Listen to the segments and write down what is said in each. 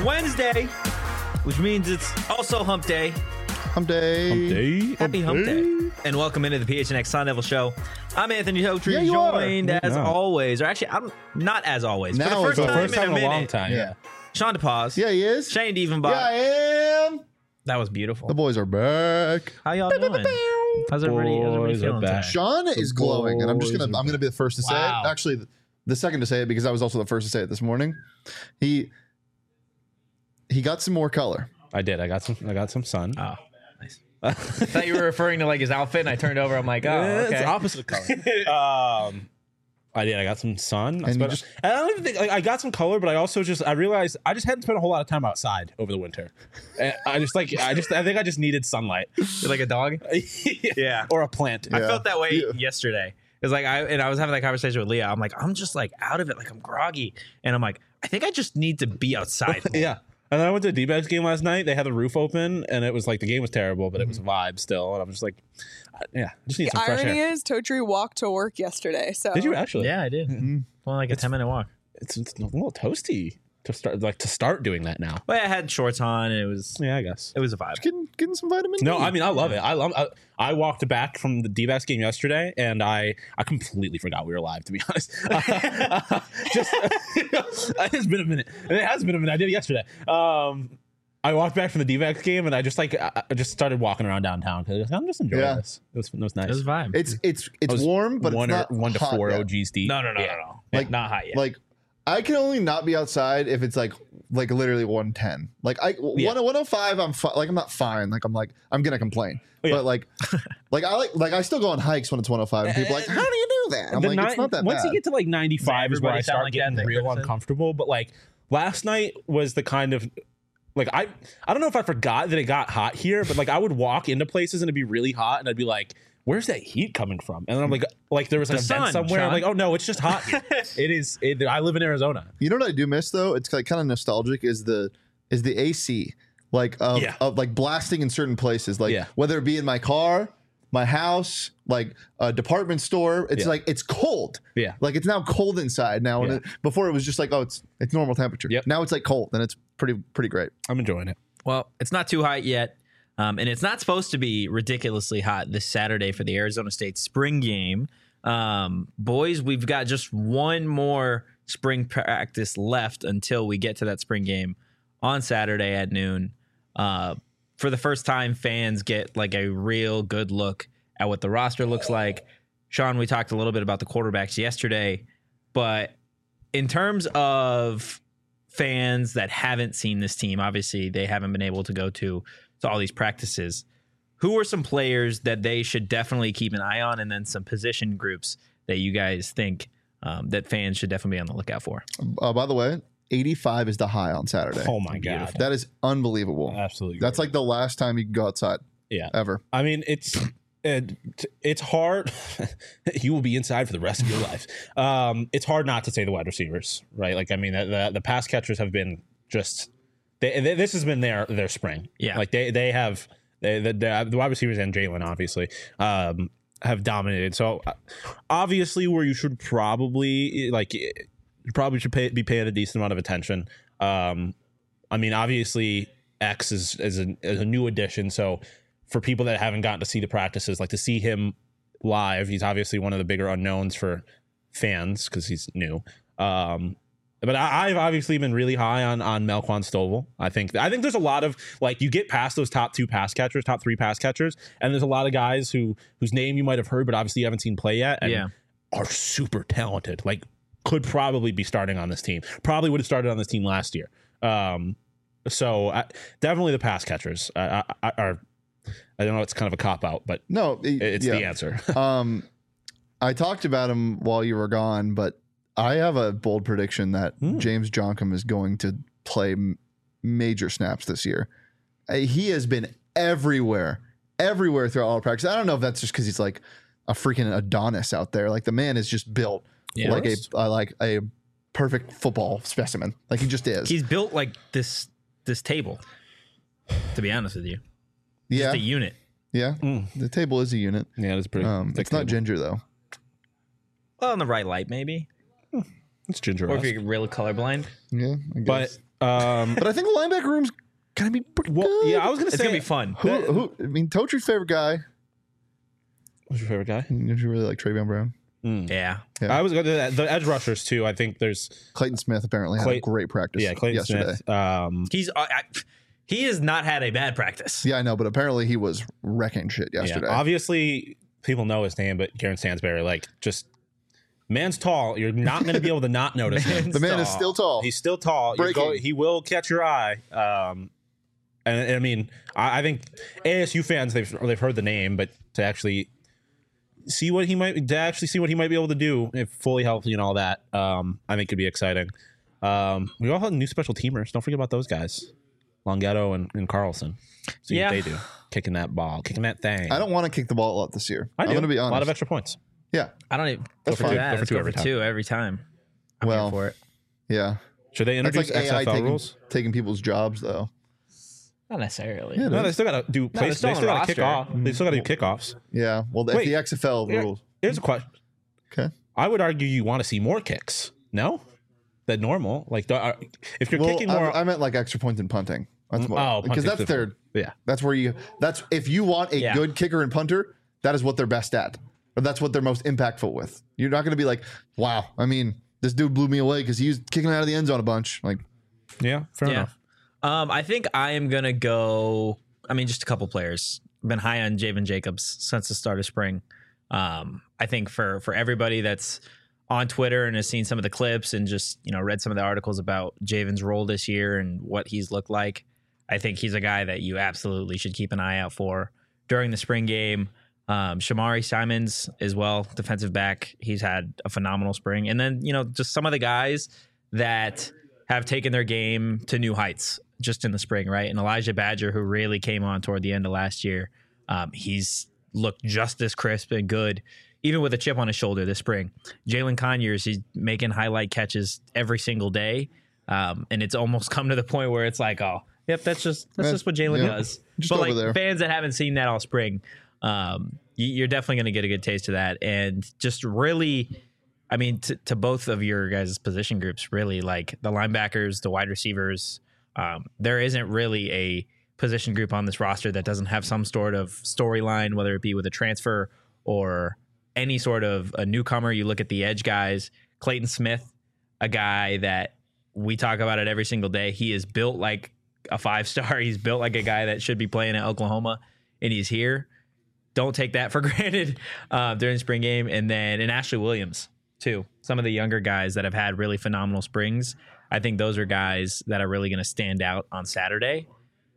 Wednesday, which means it's also Hump Day. Hump Day. Happy Hump Day. And welcome into the PHNX Sun Devil Show. I'm Anthony Totri, Yeah, you joined are. as No. always, or actually, I'm not as always. Now For it's the the first time in a minute, long time. Yeah. Sean DePaz. Yeah, he is. Shane Dievenbach. Yeah, I am. That was beautiful. The boys are back. How y'all doing? How's everybody Boys are feeling back. today? Sean is glowing, and I'm boys are gonna be the first to say Wow. it. Actually, the second to say it because I was also the first to say it this morning. He got some more color. I did. I got some sun. Oh, nice. I thought you were referring to like his outfit, and I turned over. I'm like, oh, It's okay. opposite color. I did. I got some sun. And you And I don't even think I got some color, but I realized I just hadn't spent a whole lot of time outside over the winter. And I think I just needed sunlight. You're like a dog? Yeah. Or a plant. I Yeah. felt that way Yeah. yesterday. It's like I was having that conversation with Leah. I'm like, I'm just like out of it, like I'm groggy, and I'm like, I think I just need to be outside. more. Yeah. And then I went to a D-backs game last night. They had the roof open, and it was like the game was terrible, but it was a vibe still. And I'm just like, I just need The some fresh irony air. is, Totri walked to work yesterday. So Did you actually? Yeah, I did. Only like a 10-minute walk. It's a little toasty to start doing that now. But I had shorts on, and it was Yeah, I guess. a vibe. Getting some vitamin No, D. I mean I love it. I walked back from the D-backs game yesterday, and I completely forgot we were live. To be honest, it's been a minute. It has been a minute. I did it yesterday. I walked back from the D-backs game, and I just started walking around downtown because I'm just enjoying Yeah. this. It was nice. It was a vibe. It's was warm, but one it's not to hot 4 yet. OGs deep. no. Like- Not hot yet. Like I can only not be outside if it's like literally 110. Like 105, I'm like I'm not fine. Like I'm gonna complain. Oh, yeah. But I still go on hikes when it's 105, and people are like, how do you do that? I'm The like, it's not that once bad. you get to like 95 is where Everybody I sound start like getting that, real Dickerson? uncomfortable. But like last night was the kind of like I don't know if I forgot that it got hot here, but like I would walk into places and it'd be really hot, and I'd be like, where's that heat coming from? And then I'm like there was an The event sun, somewhere. I'm Sean. like, oh no, it's just hot here. I live in Arizona. You know what I do miss though? It's like kind of nostalgic. Is the AC of like blasting in certain places, like Yeah. whether it be in my car, my house, like a department store. It's Yeah. like it's cold. Yeah. Like it's now cold inside now. Yeah. And before it was just like, oh, it's normal temperature. Yep. Now it's like cold, and it's pretty great. I'm enjoying it. Well, it's not too hot yet. And it's not supposed to be ridiculously hot this Saturday for the Arizona State spring game. Boys, we've got just one more spring practice left until we get to that spring game on Saturday at noon. For the first time, fans get like a real good look at what the roster looks like. Sean, we talked a little bit about the quarterbacks yesterday, but in terms of fans that haven't seen this team, obviously they haven't been able to go to all these practices. Who are some players that they should definitely keep an eye on, and then some position groups that you guys think that fans should definitely be on the lookout for? By the way, 85 is the high on Saturday. Oh my god, That is unbelievable. absolutely. That's like the last time you can go outside yeah. ever. I mean, it's hard. You will be inside for the rest of your life. It's hard not to say the wide receivers, right? Like, I mean, the pass catchers have been just. This has been their spring. Yeah. Like they have the wide receivers and Jalen obviously have dominated. So obviously, where you should probably should be paying a decent amount of attention. I mean, obviously, X is a new addition, so. For people that haven't gotten to see the practices, like to see him live, he's obviously one of the bigger unknowns for fans because he's new. But I've obviously been really high on Melquan Stovall. I think there's a lot of like you get past those top 3 pass catchers, and there's a lot of guys whose name you might have heard, but obviously you haven't seen play yet, and are super talented. Like could probably be starting on this team. Probably would have started on this team last year. So definitely the pass catchers are. I don't know. It's kind of a cop out, but No, it's the answer. I talked about him while you were gone, but I have a bold prediction that James Joncom is going to play major snaps this year. He has been everywhere throughout all practice. I don't know if that's just because he's like a freaking Adonis out there. Like the man is just built like a perfect football specimen. Like he just is. He's built like this table, to be honest with you. Yeah, Just a unit. yeah. The table is a unit. Yeah, it's pretty. It's not ginger though. Well, in the right light, maybe. It's ginger. Or if you're really colorblind. Yeah, I guess. But But I think the linebacker room's gonna be pretty good. Yeah, I was gonna It's say gonna be fun. Who? I mean, Totri's favorite guy. Who's your favorite guy? Did you really like Travion Brown? Yeah. Yeah. I was going to the edge rushers too. I think there's Clayton Smith apparently had a great practice. Clayton yesterday. Smith. He has not had a bad practice. Yeah, I know, but apparently he was wrecking shit yesterday. Obviously, people know his name, but Garen Stansberry, like, just man's tall. You're not going to be able to not notice him. The man is still tall. He's still tall. He will catch your eye. And I mean, I think ASU fans they've heard the name, but to actually see what he might be able to do if fully healthy and all that, I think could be exciting. We all have new special teamers. Don't forget about those guys, Longhetto and Carlson. See what they do, kicking that ball, kicking that thing. I don't want to kick the ball a lot this year. I'm going to be honest. A lot of extra points. Yeah, I don't even That's go for fine. that. Go for Let's two go every for time. two every time. I'm Well, here for it. yeah. Should they That's introduce like AI XFL rules? taking people's jobs though. Not necessarily. Yeah, No, they still got to do. they're still They still on got to kick roster. off. They still got to do kickoffs. Yeah. Well, Wait. the XFL rules. Here's a question. Okay. I would argue you want to see more kicks. No, than normal. Like if you're Well, kicking more. I meant like extra points in punting. That's more, Oh, because punting's that's their. yeah. That's where that's if you want a Yeah. good kicker and punter, that is what they're best at, or that's what they're most impactful with. You're not going to be like, wow. I mean, this dude blew me away because he was kicking out of the end zone a bunch. Like, Yeah, fair enough. I think I am gonna go. I mean, just a couple players. Been high on Javen Jacobs since the start of spring. I think for everybody that's on Twitter and has seen some of the clips and just read some of the articles about Javen's role this year and what he's looked like, I think he's a guy that you absolutely should keep an eye out for during the spring game. Shamari Simons as well, defensive back. He's had a phenomenal spring. And then, just some of the guys that have taken their game to new heights just in the spring, right? And Elijah Badger, who really came on toward the end of last year, he's looked just as crisp and good, even with a chip on his shoulder this spring. Jalen Conyers, he's making highlight catches every single day. And it's almost come to the point where it's like, oh, yep, that's just what Jalen does. Just But over like there. fans that haven't seen that all spring, you're definitely going to get a good taste of that. And just really, I mean, to both of your guys' position groups, really, like the linebackers, the wide receivers, there isn't really a position group on this roster that doesn't have some sort of storyline, whether it be with a transfer or any sort of a newcomer. You look at the edge guys, Clayton Smith, a guy that we talk about it every single day. He is built like a 5-star. He's built like a guy that should be playing at Oklahoma, and he's here. Don't take that for granted during the spring game. And then Ashley Williams, too. Some of the younger guys that have had really phenomenal springs. I think those are guys that are really going to stand out on Saturday.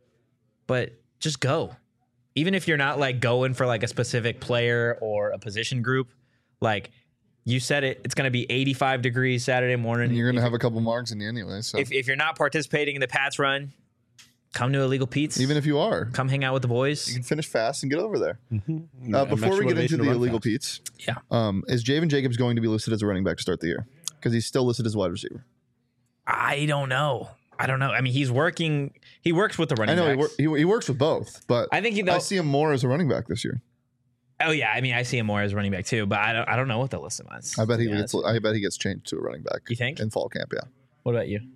But just go. Even if you're not like going for like a specific player or a position group, like you said it's going to be 85 degrees Saturday morning. and you're going to have a couple marks in you anyway. So If you're not participating in the Pats run, come to Illegal Pete's. even if you are, Come hang out with the you boys. can finish fast and get over there. Mm-hmm. Before we get into the illegal Pete's, Yeah. is Javen Jacobs going to be listed as a running back to start the year? Because he's still listed as a wide receiver. I don't know. I mean, he works with the running I know backs. he works with both, but I think I see him more as a running back this year. Oh yeah, I mean, I see him more as running back too, but I don't know what the list was. I bet he Yeah, gets. I bet he gets changed to a running back. You think? in fall camp? Yeah. What about you?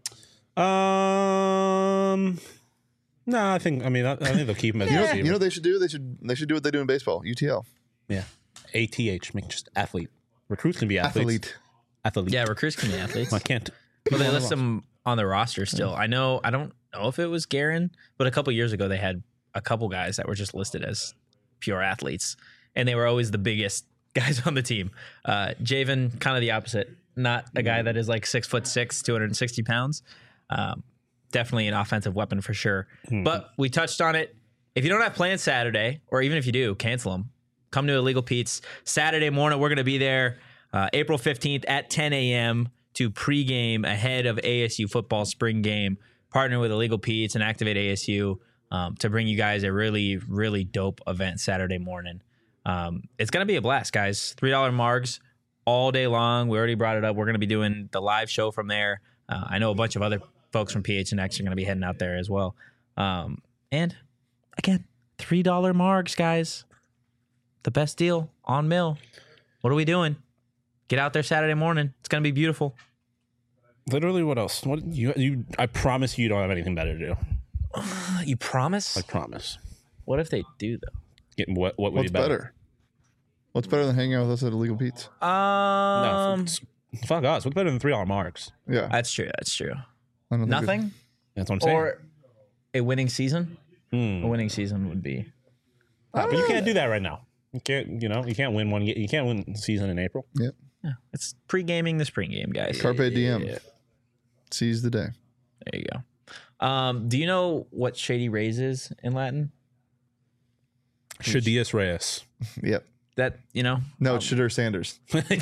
No, I think they'll keep him as a receiver. You know what they should do? They should do what they do in baseball. UTL. Yeah. ATH, make just athlete. Recruits can be athletes. Athlete. Yeah, recruits can be athletes. I can't. Well, they list them on the roster still. I don't know if it was Garen, but a couple years ago they had a couple guys that were just listed as pure athletes, and they were always the biggest guys on the team. Javen, kind of the opposite. Not a guy that is like 6'6", 260 pounds. Definitely an offensive weapon for sure. But we touched on it. If you don't have plans Saturday, or even if you do, cancel them. Come to Illegal Pete's Saturday morning. We're going to be there April 15th at 10 a.m. to pregame ahead of ASU football spring game. Partner with Illegal Pete's and Activate ASU to bring you guys a really, really dope event Saturday morning. It's going to be a blast, guys. $3 margs all day long. We already brought it up. We're going to be doing the live show from there. I know a bunch of other folks from PHNX are going to be heading out there as well. And again, $3 margs, guys. The best deal on Mill. What are we doing? Get out there Saturday morning. It's going to be beautiful. Literally, what else? What you? I promise you don't have anything better to do. You promise? I promise. What if they do though? What would What's be better? better? What's better than hanging out with us at Illegal Pete's? No, fuck us. What's better than $3 marks? Yeah. That's true. That's true. I don't think Nothing, That's what I'm saying. or a winning season. A winning season would be. But you can't do that right now. You can't. You can't win one. You can't win the season in April. Yep. Yeah, it's pre-gaming the spring game, guys. Carpe diem. Seize the day. There you go. Do you know what Shady Rays is in Latin? Shadius Reyes. Yep. That No, it's Shadur Sanders.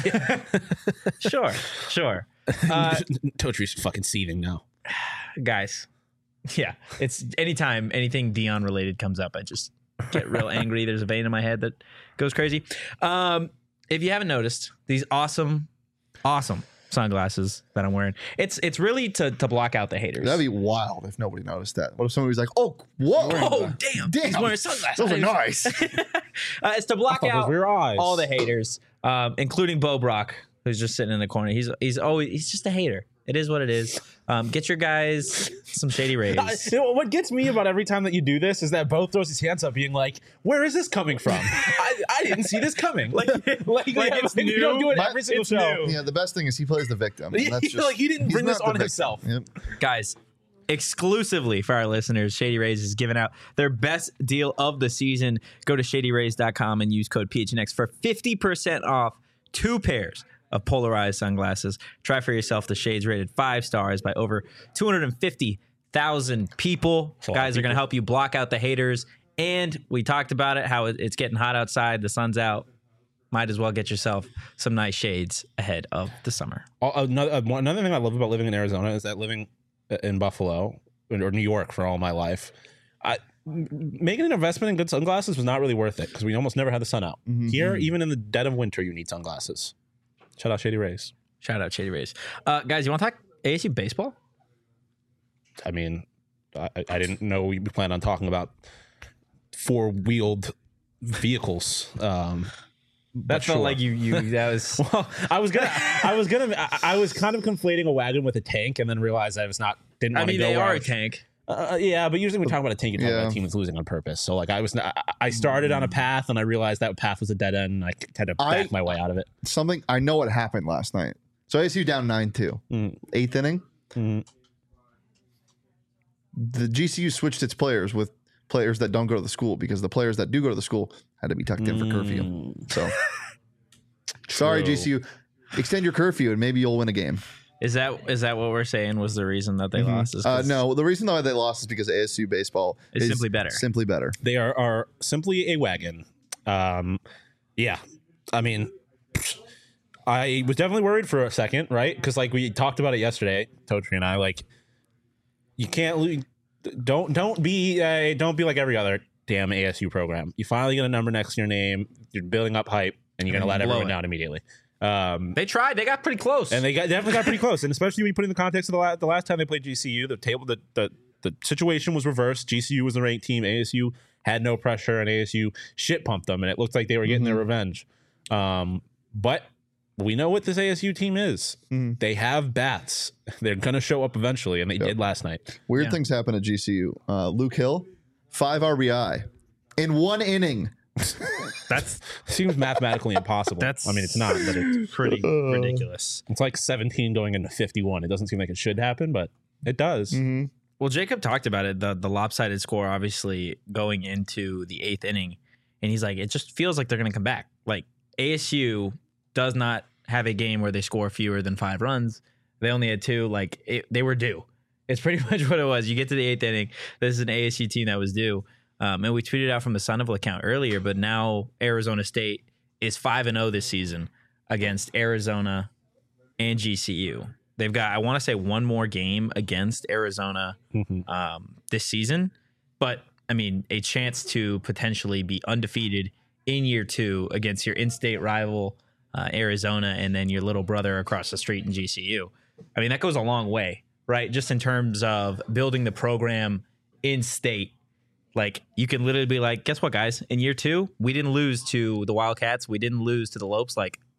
Sure. Totri's fucking seething now. Guys, yeah, it's anytime anything Dion related comes up, I just get real angry. There's a vein in my head that goes crazy. If you haven't noticed, these awesome sunglasses that I'm wearing, it's really to block out the haters. That'd be wild if nobody noticed that. What if somebody was like, "Oh, whoa, Oh, damn. He's wearing sunglasses. Those are nice." It's to block out Your eyes. all the haters, including Bo Brock, who's just sitting in the corner. He's just a hater. It is what it is. Get your guys some Shady Rays. What gets me about every time that you do this is that Bo throws his hands up, being like, "Where is this coming from? I didn't see this coming." Like it's new. You don't do it every single show. Yeah, the best thing is he plays the victim. And that's just, Like, he didn't he's bring this not the on victim. himself. Yep. Guys, exclusively for our listeners, Shady Rays is giving out their best deal of the season. Go to shadyrays.com and use code PHNX for 50% off 2 pairs of polarized sunglasses. Try for yourself the shades rated 5 stars by over 250,000 people. Guys are going to help you block out the haters. And we talked about it, how it's getting hot outside. The sun's out. Might as well get yourself some nice shades ahead of the summer. Another thing I love about living in Arizona is that living in Buffalo or New York for all my life, making an investment in good sunglasses was not really worth it because we almost never had the sun out. Here, even in the dead of winter, you need sunglasses. Shout out Shady Rays. Shout out Shady Rays. Guys, you want to talk ASU baseball? I mean, I didn't know we planned on talking about 4-wheeled vehicles. That felt like you. That was. Well, I was kind of conflating a wagon with a tank, and then realized I didn't I want to mean, go. they where are I a was- tank. Yeah, but usually when we talk about a tank, you're talking about Yeah. a team that's losing on purpose. So like I started on a path, and I realized that path was a dead end, and I had to back my way out of it. Something I know what happened last night. So ASU down 9-2, 8th inning. The GCU switched its players with players that don't go to the school because the players that do go to the school had to be tucked in for curfew. So sorry, GCU, extend your curfew and maybe you'll win a game. Is that what we're saying was the reason that they lost? Is 'cause No, the reason why they lost is because ASU baseball It's simply better. Simply better. They are simply a wagon. Yeah, I mean, I was definitely worried for a second, right? Because like we talked about it yesterday, Totri and I. Like, you can't lose. Don't be like every other damn ASU program. You finally get a number next to your name. You're building up hype, and you're gonna let blow everyone it. down immediately. They tried. They got pretty close. And they definitely got pretty close. And especially when you put in the context of the last time they played GCU, the situation was reversed. GCU was the ranked team. ASU had no pressure, and ASU shit pumped them, and it looked like they were getting their revenge. But we know what this ASU team is. They have bats. They're going to show up eventually, and they did last night. Weird things happen at GCU. Luke Hill, 5 RBI in 1 inning. That's Seems mathematically impossible. I mean, it's not, but it's pretty ridiculous. It's like 17 going into 51. It doesn't seem like it should happen, but it does. Well, Jacob talked about it, the lopsided score, obviously going into the 8th inning, and he's like, it just feels like they're going to come back. Like ASU does not have a game where they score fewer than 5 runs. They only had 2. Like they were due. It's pretty much what it was. You get to the 8th inning. This is an ASU team that was due. And we tweeted out from the Sunnyvale account earlier, but now Arizona State is 5-0 this season against Arizona and GCU. They've got, I want to say, one more game against Arizona this season. But, I mean, a chance to potentially be undefeated in year 2 against your in-state rival, Arizona, and then your little brother across the street in GCU. I mean, that goes a long way, right? Just in terms of building the program in-state. Like, you can literally be like, guess what, guys? In year 2, we didn't lose to the Wildcats. We didn't lose to the Lopes. Like,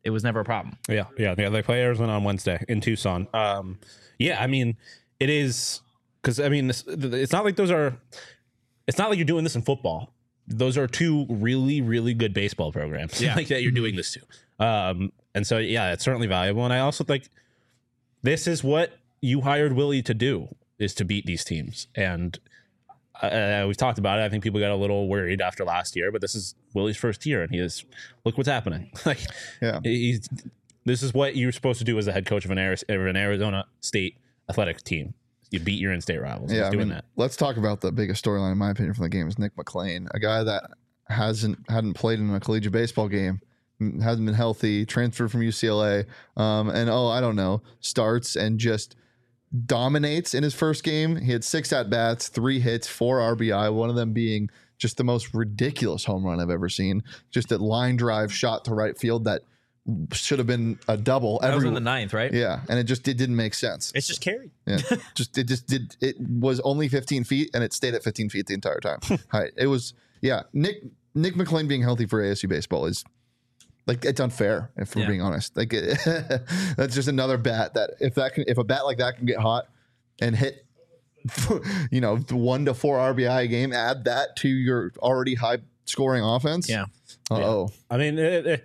It was never a problem. Yeah. They play Arizona on Wednesday in Tucson. Yeah, I mean, it is because I mean, it's not like it's not like you're doing this in football. Those are two really, really good baseball programs. Yeah. Like that you're doing this to. And so yeah, it's certainly valuable. And I also think this is what you hired Willie to do, is to beat these teams. And we've talked about it. I think people got a little worried after last year, but this is Willie's first year, and look what's happening. Like, Yeah. This is what you're supposed to do as the head coach of an Arizona State athletic team. You beat your in-state rivals. Yeah, He's I doing mean, that. let's talk about the biggest storyline, in my opinion, from the game is Nick McClain, a guy that hadn't played in a collegiate baseball game, hasn't been healthy, transferred from UCLA, and I don't know, starts and just dominates in his first game. He had 6 at-bats, 3 hits, 4 RBI, one of them being just the most ridiculous home run I've ever seen. Just a line drive shot to right field that should have been a double. That was in the 9th, right? Yeah, and it didn't make sense. It's just carried. Yeah, it was only 15 feet, and it stayed at 15 feet the entire time. It was Nick McClain being healthy for ASU baseball is like, it's unfair, if we're being honest. Like that's just another bat that if a bat like that can get hot and hit 1 to 4 RBI a game, add that to your already high scoring offense. Yeah. I mean,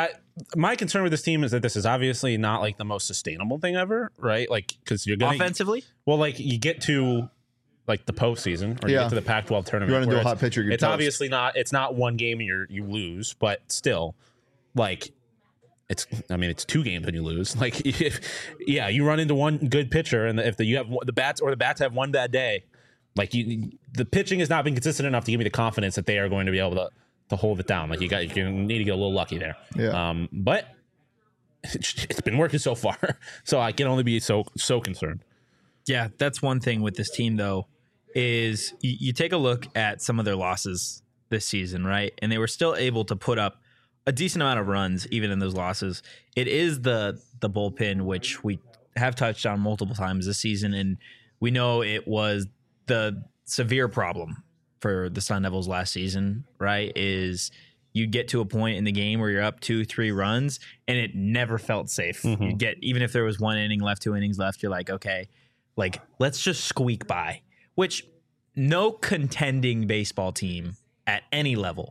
my concern with this team is that this is obviously not like the most sustainable thing ever, right? Like, because you're going Offensively? Well, like you get to like the postseason, or you get to the Pac-12 tournament. You run into where a hot pitcher, you're it's toast. obviously not. It's not one game and you lose, but still, like it's 2 games and you lose. Like, you run into one good pitcher, and if you have the bats have one bad day, like the pitching has not been consistent enough to give me the confidence that they are going to be able to hold it down. Like you need to get a little lucky there. Yeah. But it's been working so far, so I can only be so concerned. Yeah, that's one thing with this team, though, is you take a look at some of their losses this season, right? And they were still able to put up a decent amount of runs, even in those losses. It is the bullpen, which we have touched on multiple times this season, and we know it was the severe problem for the Sun Devils last season, right? Is you get to a point in the game where you're up 2-3 runs, and it never felt safe. You get, even if there was 1 inning left, 2 innings left, you're like, okay, like, let's just squeak by, which no contending baseball team at any level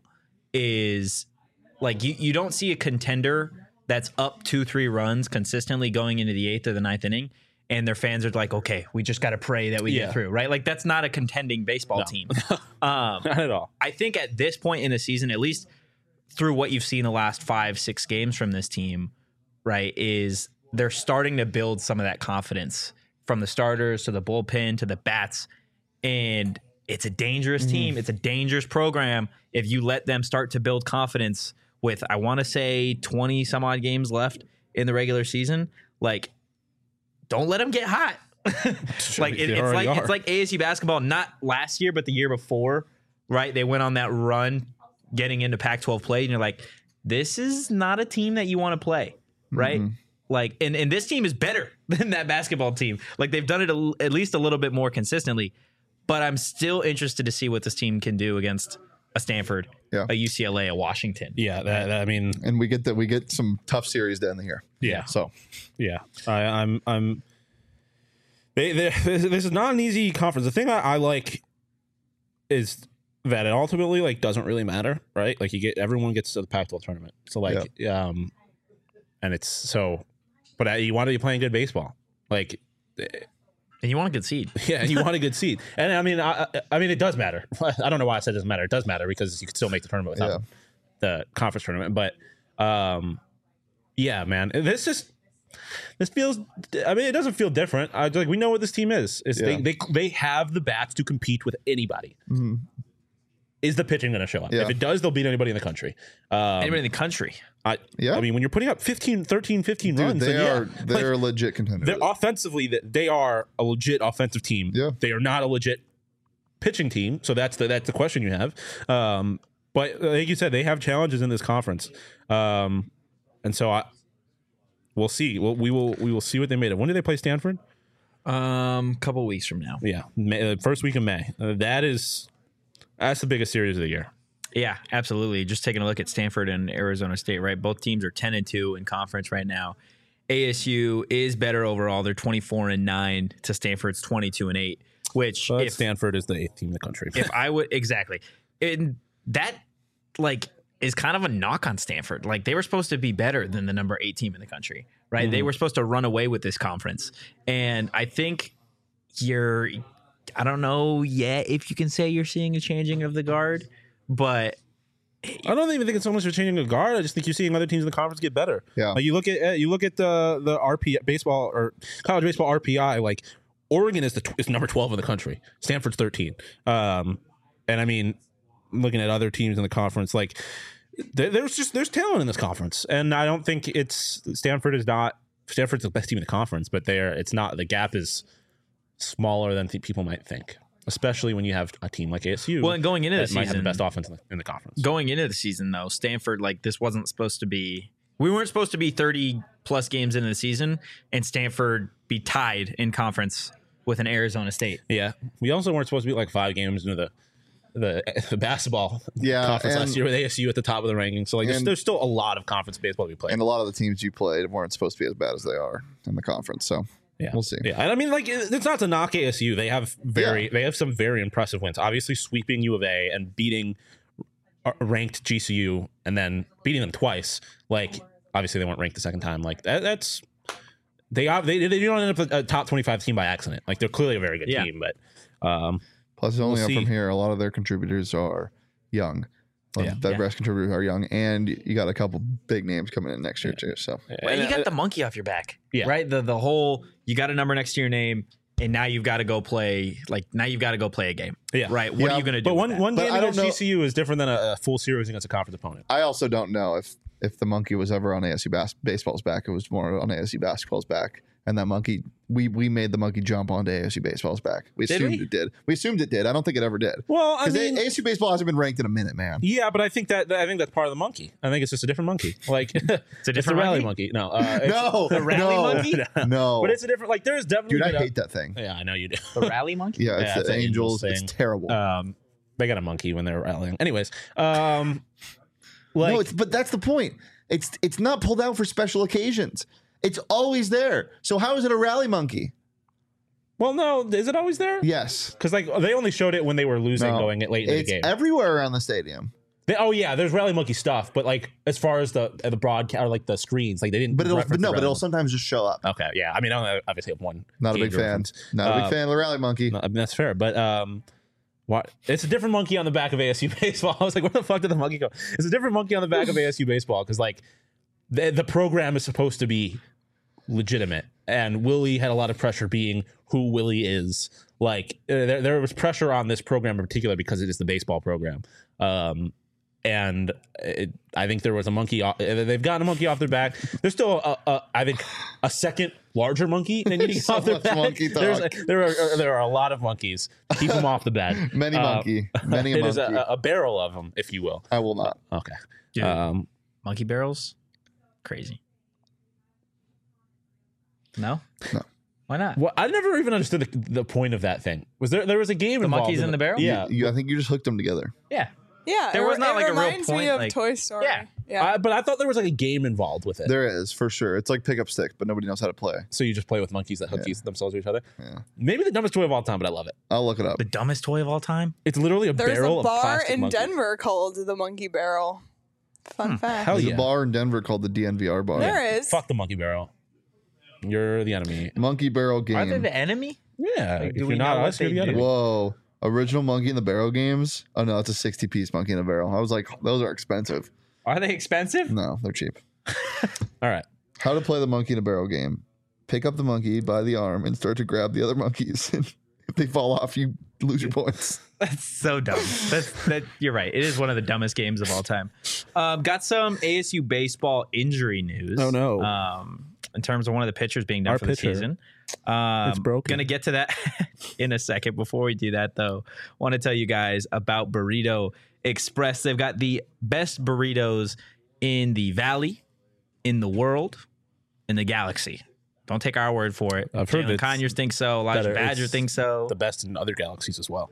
is like, you don't see a contender that's up 2-3 runs consistently going into the 8th or the 9th inning, and their fans are like, okay, we just got to pray that we get through, right? Like, that's not a contending baseball team. Not at all. I think at this point in the season, at least through what you've seen the last 5-6 games from this team, right, is they're starting to build some of that confidence from the starters to the bullpen to the bats. And it's a dangerous team. It's a dangerous program if you let them start to build confidence with, I want to say, 20 some odd games left in the regular season. Like, don't let them get hot. Like it's like ASU basketball, not last year, but the year before, right? They went on that run getting into Pac-12 play, and you're like, this is not a team that you want to play, right? Like, and this team is better than that basketball team. Like, they've done it at least a little bit more consistently, but I'm still interested to see what this team can do against a Stanford, a UCLA, a Washington. Yeah, I mean, And we get some tough series to end the year. yeah. So Yeah, I'm. This is not an easy conference. The thing I like is that it ultimately like doesn't really matter, right? Like everyone gets to the Pac-12 tournament, so like, and it's so, but you want to be playing good baseball, like, And you want a good seed. yeah, and you want a good seed, and I mean, it does matter. I don't know why I said it doesn't matter. It does matter because you can still make the tournament without the conference tournament, but yeah, man, this feels. I mean, it doesn't feel different. Like, we know what this team is. They have the bats to compete with anybody. Is the pitching going to show up? Yeah. If it does, they'll beat anybody in the country. Anybody in the country. I mean, when you're putting up 15 runs, they then are a legit contender. They're offensively, they are a legit offensive team. Yeah. They are not a legit pitching team. So that's the question you have. But like you said, they have challenges in this conference. And so we'll see. We will see what they made of. When do they play Stanford? Couple weeks from now. Yeah, first week of May. That's the biggest series of the year. Yeah, absolutely. Just taking a look at Stanford and Arizona State, right? Both teams are 10-2 in conference right now. ASU is better overall. They're 24-9 to Stanford's 22-8, which But if Stanford is the 8th team in the country. if I would exactly. And that like is kind of a knock on Stanford. Like they were supposed to be better than the number 8 team in the country, right? They were supposed to run away with this conference. And I think I don't know yet if you can say you're seeing a changing of the guard, but I don't even think it's so much for changing a guard. I just think you're seeing other teams in the conference get better. Yeah. Like you look at the RP baseball or college baseball RPI. Like Oregon is number 12 in the country. Stanford's 13. And I mean, looking at other teams in the conference, like there's talent in this conference, and I don't think Stanford's the best team in the conference, but it's not. The gap is smaller than people might think, especially when you have a team like ASU. well, and going into the that might have the season, best offense in the conference. going into the season though, Stanford, like this wasn't supposed to be. We weren't supposed to be 30 plus games into the season and Stanford be tied in conference with an Arizona State. Yeah, we also weren't supposed to be like 5 games into the basketball conference last year with ASU at the top of the rankings. So like there's still a lot of conference baseball to be played. And a lot of the teams you played weren't supposed to be as bad as they are in the conference. So Yeah, we'll see. Yeah, and I mean, like, it's not to knock ASU. They have some very impressive wins. Obviously, sweeping U of A and beating ranked GCU, and then beating them twice. Like, obviously, they weren't ranked the second time. Like that's they don't end up a top 25 team by accident. Like they're clearly a very good team, but Plus, only we'll up see. from here, a lot of their contributors are young. The rest contributors are young, and you got a couple big names coming in next year too. So Well, you got the monkey off your back, right? The whole you got a number next to your name, and now you've got to go play. Like now you've got to go play a game, right? What are you going to do? But one But game I don't against know- GCU is different than a full series against a conference opponent. I also don't know if the monkey was ever on ASU baseball's back. It was more on ASU basketball's back. And that monkey, we made the monkey jump onto ASU baseball's back. We assumed it did. We assumed it did. I don't think it ever did. Well, I Because mean, ASU baseball hasn't been ranked in a minute, man. yeah, but I think that's part of the monkey. I think it's just a different monkey. Like it's a different rally monkey? monkey. No, No, the rally no, monkey? No, but it's a different. Like there is definitely. dude, I been hate that thing. Yeah, I know you do. the rally monkey. Yeah, Yeah, it's it's the an Angels. Angels It's thing. terrible. They got a monkey when they were rallying. Anyways, like No, but that's the point. It's not pulled out for special occasions. It's always there. So how is it a rally monkey? well, no, is it always there? Yes. Because like they only showed it when they were losing, No, going it late in the it's game. everywhere around the stadium. There's rally monkey stuff, but like as far as the broadcast or like the screens, like they didn't. But reference the it'll rally sometimes just show up. monkey. Okay, yeah. I mean, I don't obviously have one. Not a game big to fan. reference. Not a big fan of the rally monkey. No, I mean, that's fair, but what? It's a different monkey on the back of ASU baseball. I was like, where the fuck did the monkey go? It's a different monkey on the back of ASU baseball because like the program is supposed to be legitimate, and Willie had a lot of pressure being who Willie is. Like there was pressure on this program in particular because it is the baseball program. And I think there was a monkey. They've gotten a monkey off their back. There's still, I think, a second larger monkey than getting So off their much back. monkey talk. There are a lot of monkeys. Keep them off the bed. Many monkey. Many a It is monkey. a barrel of them, if you will. I will not. Okay. Dude, monkey barrels, crazy. No. Why not? Well, I never even understood the point of that thing. There was a game The involved monkeys in the barrel? Yeah. I think you just hooked them together. Yeah. Yeah, There was not, like, a real reminds point, me of like- Toy Story. Yeah. But I thought there was like a game involved with it. There is, for sure. It's like pick up stick, but nobody knows how to play. So you just play with monkeys that hook themselves to each other. Yeah. Maybe the dumbest toy of all time, but I love it. I'll look it up. The dumbest toy of all time. It's literally a There's barrel a of bar plastic in monkeys. Denver called the Monkey Barrel. Fun fact. Hell There's yeah. a bar in Denver called the DNVR bar. There is. Fuck the monkey barrel. You're the enemy. Monkey barrel Are they game. the enemy? Yeah. Like, if do you're we not know what us, you're they the do? enemy. Whoa. Original monkey in the barrel games? Oh no, it's a 60-piece monkey in a barrel. I was like, those are expensive. Are they expensive? No, they're cheap. All right. How to play the monkey in a barrel game. Pick up the monkey by the arm and start to grab the other monkeys. If they fall off, you lose your points. That's so dumb. You're right. It is one of the dumbest games of all time. Got some ASU baseball injury news. Oh, no. In terms of one of the pitchers being done Our for the pitcher. season. It's broken. Gonna get to that in a second. Before we do that, though, want to tell you guys about Burrito Express. They've got the best burritos in the valley, in the world, in the galaxy. Don't take our word for it. I've heard Jalen it's Conyers thinks so. Elijah better. Badger It's thinks so. The best in other galaxies as well.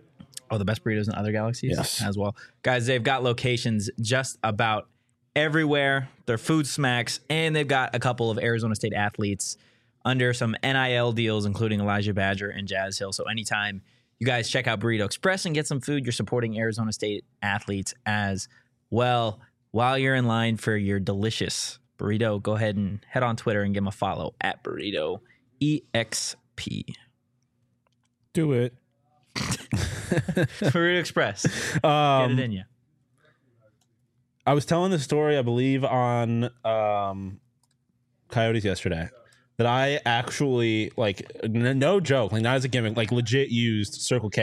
Oh, the best burritos in other galaxies? Yes. As well. Guys, they've got locations just about everywhere. They're food smacks, and they've got a couple of Arizona State athletes under some NIL deals, including Elijah Badger and Jazz Hill. So anytime you guys check out Burrito Express and get some food, you're supporting Arizona State athletes as well. While you're in line for your delicious burrito, go ahead and head on Twitter and give them a follow at Burrito EXP. Do it. Burrito Express. Get it in you. I was telling this story, I believe, on Coyotes yesterday, that I actually, like, no joke, like, not as a gimmick, like, legit used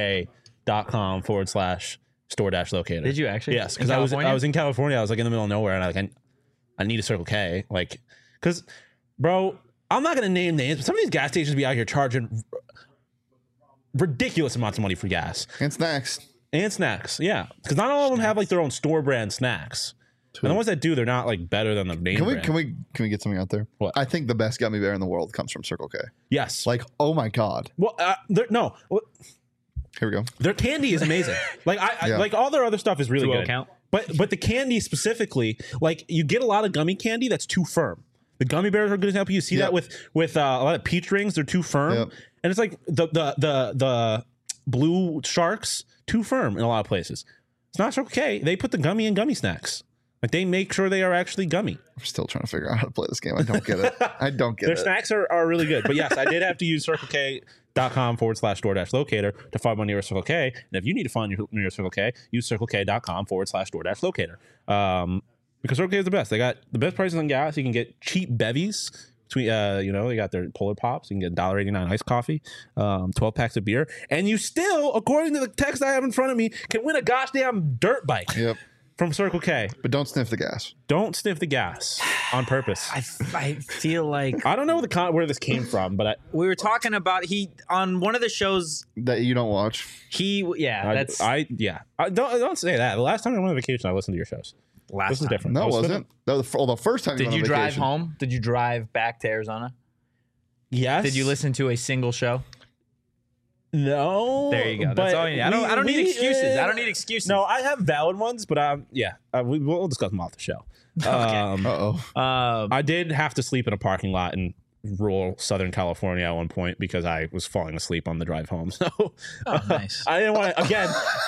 CircleK.com/store-locator. Did you actually? Yes, because I was in California. I was like in the middle of nowhere, and I need a Circle K, like, because, bro, I'm not gonna name names, but some of these gas stations be out here charging ridiculous amounts of money for gas And snacks. and snacks. Yeah, because not all of them have like their own store brand snacks, and the ones that do, they're not like better than the name brand. Can we get something out there? What? I think the best gummy bear in the world comes from Circle K. Yes. Like, oh my god. Well, no. Here we go. Their candy is amazing. Like I Yeah. like all their other stuff is really Do good. account? But the candy specifically, like you get a lot of gummy candy that's too firm. The gummy bears are a good example. You see Yep. that with a lot of peach rings, they're too firm, Yep. and it's like the blue sharks too firm in a lot of places. It's not Circle K. They put the gummy in gummy snacks. Like they make sure they are actually gummy. I'm still trying to figure out how to play this game. I don't get it. I don't get Their it. snacks are really good. But yes, I did have to use CircleK.com/store-locator to find my nearest Circle K. And if you need to find your nearest Circle K, use CircleK.com/store-locator. Because Circle K is the best. They got the best prices on gas. You can get cheap bevies. Between, they got their Polar Pops. You can get $1.89 iced coffee, 12 packs of beer. And you still, according to the text I have in front of me, can win a goddamn dirt bike Yep. from Circle K. But don't sniff the gas. Don't sniff the gas on purpose. I feel like I don't know where this came from, but we were talking about on one of the shows. That you don't watch. don't say that. The last time I went on vacation, I listened to your shows. Last This is time. different. No, I it was wasn't. That was the first time. Did went you on drive vacation. home? Did you drive back to Arizona? Yes. Did you listen to a single show? No. There you go. That's all you need. I don't need excuses. I don't need excuses. No, I have valid ones, but we'll discuss them off the show. Uh-oh. I did have to sleep in a parking lot in rural Southern California at one point because I was falling asleep on the drive home. So nice. I didn't want to, again,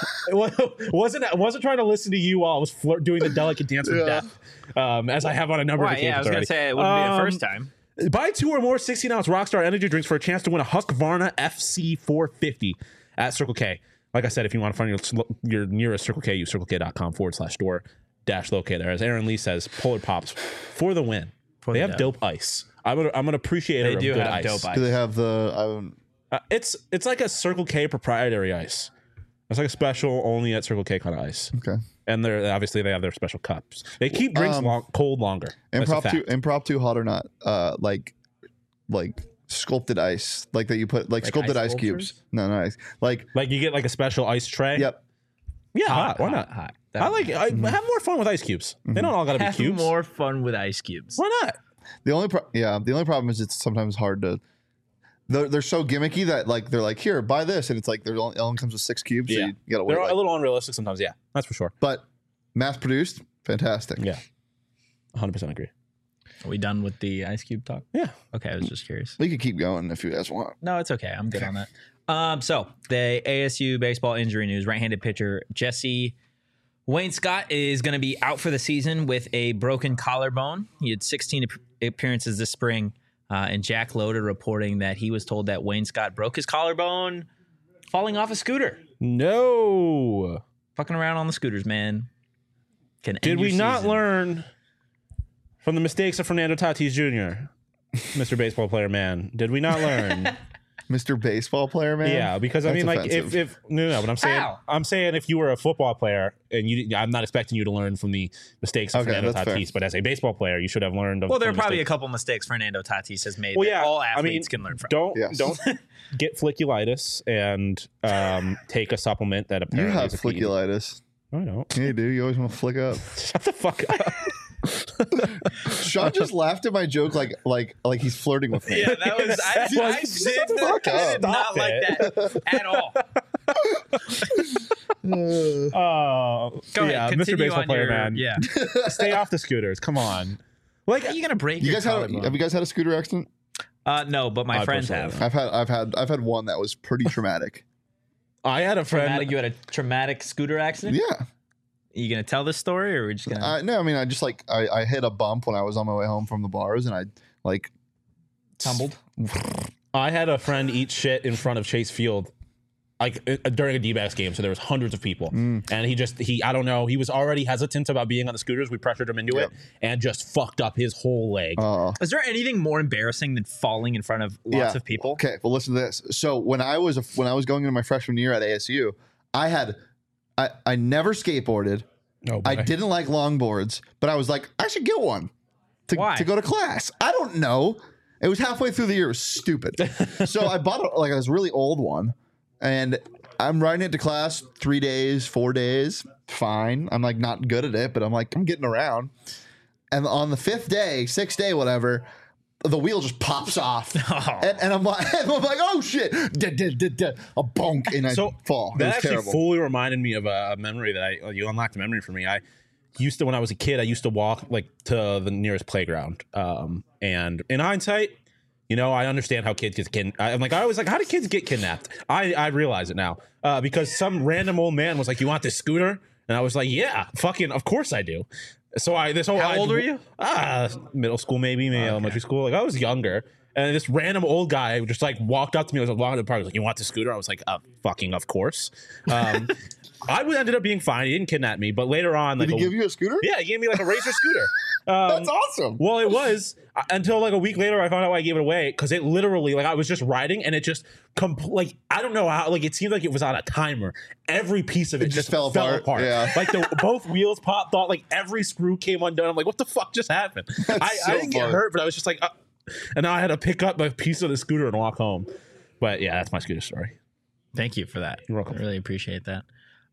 wasn't trying to listen to you while I was doing the delicate dance with death, as I have on a number of Right, occasions I was going already. to say it wouldn't be the first time. Buy 2 or more 16-ounce Rockstar energy drinks for a chance to win a Husqvarna FC450 at Circle K. Like I said, if you want to find your nearest Circle K, use CircleK.com/store-locator. As Aaron Lee says, Polar Pops for the win. They have dope ice. I'm an appreciator of good ice. Dope ice. Do they have the? It's like a Circle K proprietary ice. It's like a special only at Circle K kind of ice. Okay. And they have their special cups. They keep drinks cold longer. That's a fact. Impromptu, hot or not? Like sculpted ice, like that you put like sculpted ice sculptures? cubes. No, not ice. Like Like you get like a special ice tray. yep. Yeah, hot. Why not? Hot. I have more fun with ice cubes. They don't all gotta be Have cubes. more fun with ice cubes. Why not? The only problem is it's sometimes hard to. They're so gimmicky that like they're like, here, buy this, and it's like it only comes with 6 cubes. So you gotta wait. They're Like, a little unrealistic sometimes. Yeah, that's for sure. but mass produced, fantastic. Yeah, 100% agree. Are we done with the ice cube talk? Yeah. Okay, I was just curious. We could keep going if you guys want. No, it's okay. I'm good on that. So the ASU baseball injury news: right-handed pitcher Jesse Wayne Scott is going to be out for the season with a broken collarbone. He had 16 appearances this spring, and Jack Loader reporting that he was told that Wayne Scott broke his collarbone falling off a scooter. No. Fucking around on the scooters, man. Did we not learn from the mistakes of Fernando Tatis Jr., Mr. Baseball Player Man? Did we not learn? Mr. Baseball Player, man. Yeah, because That's I mean, like, offensive. if no, but I'm saying if you were a football player and I'm not expecting you to learn from the mistakes of Fernando that's Tatis, fair. but as a baseball player, you should have learned. Well, there are from probably a mistakes. couple mistakes Fernando Tatis has made Well, that yeah, all I mean, athletes can learn from. Don't Yes. get folliculitis and take a supplement that You apparently have is a key. folliculitis. I don't. Yeah, you do. You always want to flick up. Shut the fuck up. Sean just laughed at my joke like he's flirting with me. Yeah, that was I Shut the fuck did up. not Stop like it. that at all. Oh, Go yeah, ahead, Mr. continue Baseball on player, your- man. Yeah. Stay off the scooters. Come on. Like, Are you gonna break You your guys have collarbone? you guys had a scooter accident? No, but my I friends personally have. I've had one that was pretty traumatic. I had a friend. Traumatic, you had a traumatic scooter accident? Yeah. Are you gonna tell this story, or are we just gonna? No, I mean, I just like I hit a bump when I was on my way home from the bars, and I like Tumbled? I had a friend eat shit in front of Chase Field, like during a D-backs game. So there was hundreds of people, and he I don't know. He was already hesitant about being on the scooters. We pressured him into it, and just fucked up his whole leg. Is there anything more embarrassing than falling in front of lots of people? Okay, well, listen to this. So when I was going into my freshman year at ASU, I never skateboarded. Oh, boy. I didn't like longboards, but I was like, I should get one Why? to go to class. I don't know. It was halfway through the year. It was stupid. So I bought this really old one, and I'm riding it to class 3 days, 4 days. Fine. I'm like not good at it, but I'm like, I'm getting around. And on the 5th day, 6th day, whatever, the wheel just pops off. And I'm like, oh shit. A bonk, and I fall. It That was actually terrible. fully reminded me of a memory that you unlocked a memory for me. I used to, when I was a kid, I used to walk like to the nearest playground. And in hindsight, you know, I understand how kids get kidnapped. I was like, how do kids get kidnapped? I realize it now because some random old man was like, you want this scooter? And I was like, yeah, fucking, of course I do. So How old were you? Middle school, maybe elementary school. Like I was younger. And this random old guy just like walked up to me. I was walking to the park. He was like, you want the scooter? I was like, fucking of course. I ended up being fine. He didn't kidnap me. But later on, like, Did he give you a scooter? yeah, he gave me like a Razor scooter. That's awesome. Well, it was until like a week later I found out why I gave it away because it literally like I was just riding and it just like I don't know how like it seemed like it was on a timer. Every piece of it just fell apart. Yeah. Like both wheels popped off. Like every screw came undone. I'm like, what the fuck just happened? I didn't get hurt, but I was just like, and now I had to pick up a piece of the scooter and walk home. But yeah, that's my scooter story. Thank you for that. You're welcome. I really appreciate that.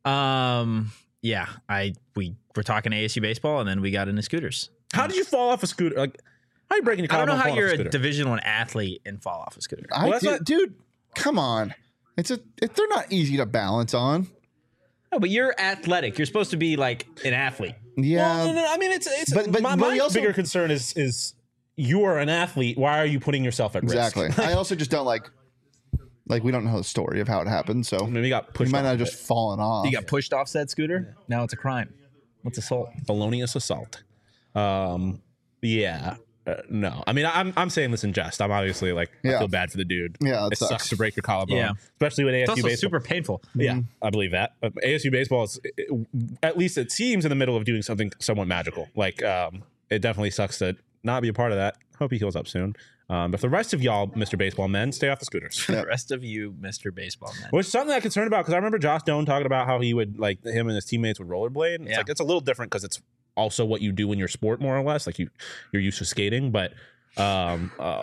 Yeah, we were talking ASU baseball, and then we got into scooters. How did you fall off a scooter? Like, how are you breaking your I don't collarbone know how falling off you're a scooter? Division I athlete and fall off a scooter. Dude, come on. They're not easy to balance on. No, but you're athletic. You're supposed to be like an athlete. Yeah. Well, no, I mean, it's But my you also- bigger concern is you are an athlete. Why are you putting yourself at Exactly. risk? I also just don't like we don't know the story of how it happened, so I mean, we got we pushed might off not a have just fallen off. You got pushed off said scooter. Now it's a crime. What's assault? felonious assault. Yeah. No, I mean, I'm saying this in jest. I'm obviously like, I Yeah. feel bad for the dude. Yeah, it it sucks sucks. to break your collarbone, Yeah. especially with ASU It's also baseball. super painful. Yeah, I believe that. ASU baseball is, at least it seems, in the middle of doing something somewhat magical. Like, it definitely sucks to not be a part of that. Hope he heals up soon. But the rest of y'all, Mr. Baseball men, stay off the scooters. The rest of you, Mr. Baseball Man. Which is something I'm concerned about because I remember Josh Doan talking about how he would like him and his teammates would rollerblade. And it's Yeah. like it's a little different because it's also what you do in your sport more or less. Like you're used to skating, but Yeah,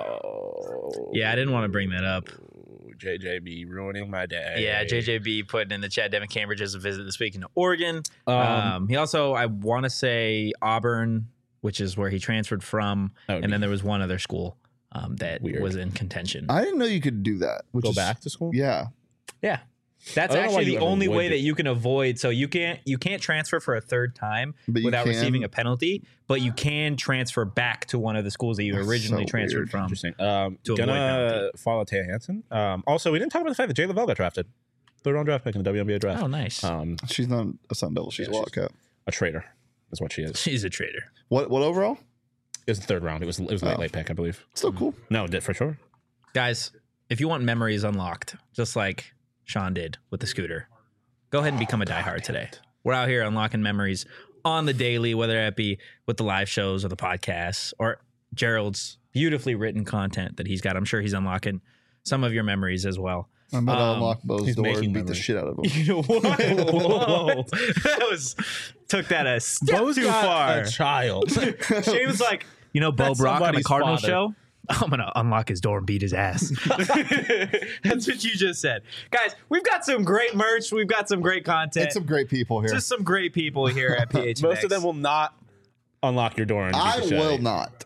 I didn't want to bring that up. JJB ruining my day. Yeah, JJB putting in the chat. Devin Cambridge has a visit this week into Oregon. He also, I want to say Auburn, which is where he transferred from, and then there was one other school that Weird. was in contention. I didn't know you could do that. Which Go is, back to school. Yeah. Yeah, that's I don't know why actually you the ever only would way do- that you can avoid. So you can't transfer for a third time But you without can. receiving a penalty, but you can transfer back to one of the schools that you That's originally so transferred weird. from. Interesting. to avoid Gonna penalty. follow Taya Hansen. Also, we didn't talk about the fact that Jay Lavelle got drafted. Third round draft pick in the WNBA draft. Oh, nice. She's not a Sun Devil. She's a Yeah, Wildcat. A traitor is what she is. She's a traitor. What overall? It was the third round. It was late pick, I believe. Still cool. No, it did for sure. Guys, if you want memories unlocked, just like Sean did with the scooter, go ahead and become a diehard today. We're out here unlocking memories on the daily, whether that be with the live shows or the podcasts or Gerald's beautifully written content that he's got. I'm sure he's unlocking some of your memories as well. I'm about to unlock Bo's he's door making and beat the memories. shit out of him. You know what? Whoa. That took that a step Bo's too got far. a child. She was like, you know, Bo That's Brock on the somebody's Cardinals father. show? I'm going to unlock his door and beat his ass. That's what you just said. Guys, we've got some great merch. We've got some great content. It's some great people here. Just some great people here at PHNX. Most of them will not unlock your door. And beat I the shit out of will you. not.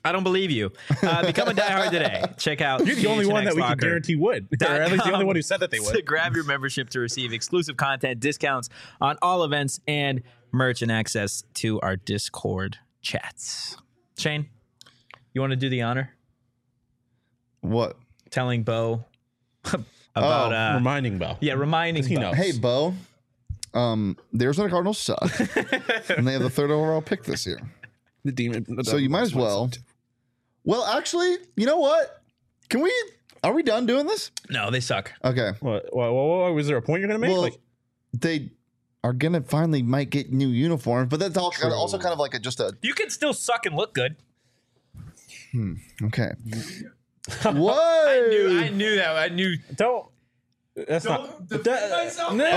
I don't believe you. Become a diehard today. Check out. You're the only one that we can guarantee would. Or at least the only one who said that they To would. grab your membership to receive exclusive content, discounts on all events, and merch, and access to our Discord chats. Shane, you want to do the honor? What? Telling Bo about Reminding Bo. yeah, reminding He Bo. knows. Hey, Bo. The Arizona Cardinals suck, and they have the 3rd overall pick this year. The demon. So you might as well. Well, actually, you know what? Are we done doing this? No, they suck. Okay. What, was there a point you're going to make? Well, they are gonna finally might get new uniforms, but that's also kind of like You can still suck and look good. okay. What? I knew that. I knew. don't. That's not. Okay, Hey,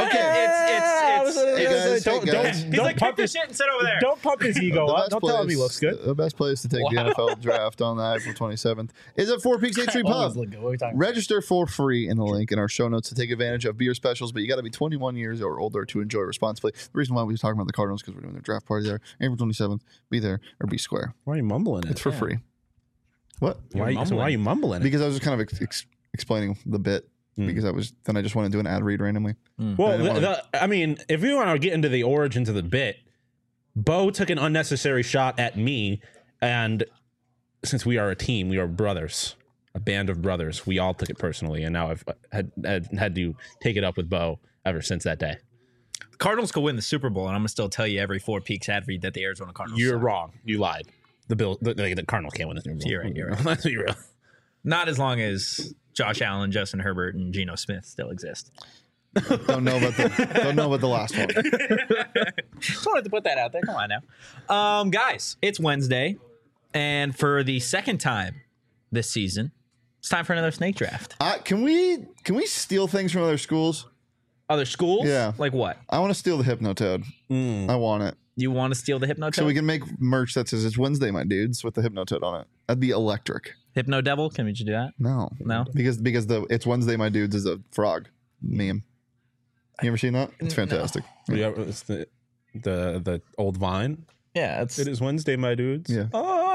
guys, Don't He's like, pick pump the his, shit and sit over there. don't pump his ego up. Don't tell him he looks good. The best place to take the NFL draft on the April 27th is at Four Peaks 8th Street Pub. Register for free in the link in our show notes to take advantage of beer specials, but you got to be 21 years or older to enjoy responsibly. The reason why we were talking about the Cardinals because we're doing their draft party there, April 27th. Be there or be square. Why are you mumbling it? It's for free. What? Why are you mumbling it? Because I was just kind of explaining the bit. Because I just want to do an ad read randomly. Well, I mean, if we want to get into the origins of the bit, Bo took an unnecessary shot at me, and since we are a team, we are brothers, a band of brothers. We all took it personally, and now I've had to take it up with Bo ever since that day. Cardinals could win the Super Bowl, and I'm gonna still tell you every Four Peaks ad read that the Arizona Cardinals. You're suck. wrong. You lied. The Cardinals can't win the Super Bowl. You're right. Let's be real. Not as long as Josh Allen, Justin Herbert, and Geno Smith still exist. Don't know about the last one. Just wanted to put that out there. Come on now, guys. It's Wednesday, and for the second time this season, it's time for another snake draft. Can we steal things from other schools? Other schools? Yeah. Like what? I want to steal the Hypnotoad. I want it. You want to steal the Hypnotoad? So we can make merch that says it's Wednesday, my dudes, with the Hypnotoad on it. That'd be electric. Hypno Devil? Can we just do that? No. Because the it's Wednesday, my dudes is a frog meme. You ever seen that? It's fantastic. Yeah, it's the old Vine. Yeah, It is Wednesday, my dudes. Yeah.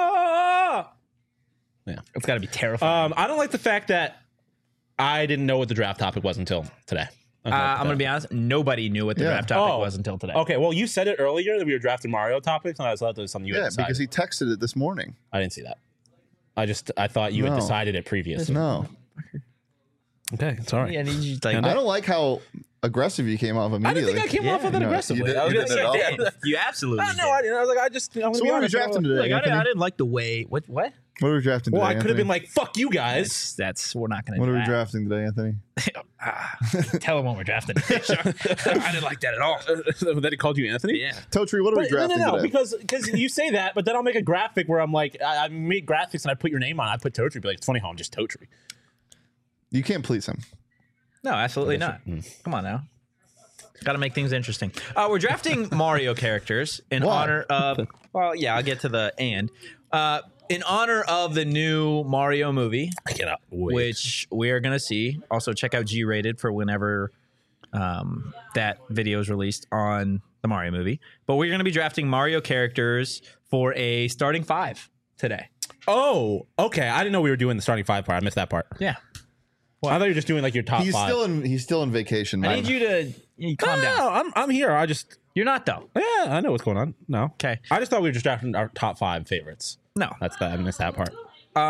Yeah. It's got to be terrifying. I don't like the fact that I didn't know what the draft topic was until today. I'm going to be honest. Nobody knew what the draft topic was until today. Okay, well, you said it earlier that we were drafting Mario topics, and I thought that was something you had decided. Because he texted it this morning. I didn't see that. I thought you had decided it previously. No. Okay, sorry. Yeah, and you just, like, I don't like how aggressive you came off I immediately. didn't think I came off of it No, aggressively. you did- I was you gonna did say, at all. You absolutely no, did. I didn't. I was like, I'm So gonna what be are we honest. drafting today? Like, I Anthony? didn't like the way. What? What are we drafting today? Well, I could have been Anthony? like, "Fuck you guys." That's we're not going to. What do are we that. drafting today, Anthony? Tell them what we're drafting. I didn't like that at all. That he called you Anthony. Yeah. Totri, what are we drafting no, today? because you say that, but then I'll make a graphic where I'm like, I make graphics and I put your name on. I put Totri, be like, it's funny how I'm just Totri. You can't please him. No, absolutely not. Come on now. Got to make things interesting. We're drafting Mario characters in Why? honor of. Well, yeah, I'll get to the and. In honor of the new Mario movie, I cannot wait. which we are going to see. Also, check out G-Rated for whenever that video is released on the Mario movie. But we're going to be drafting Mario characters for a starting 5 today. Oh, okay. I didn't know we were doing the starting 5 part. I missed that part. Yeah. I thought you were just doing like your top He's 5. still in vacation. I man. need you to calm down. No, I'm here. I just You're not, though. yeah, I know what's going on. No, Okay. I just thought we were just drafting our top 5 favorites. No. That's that. I missed that part.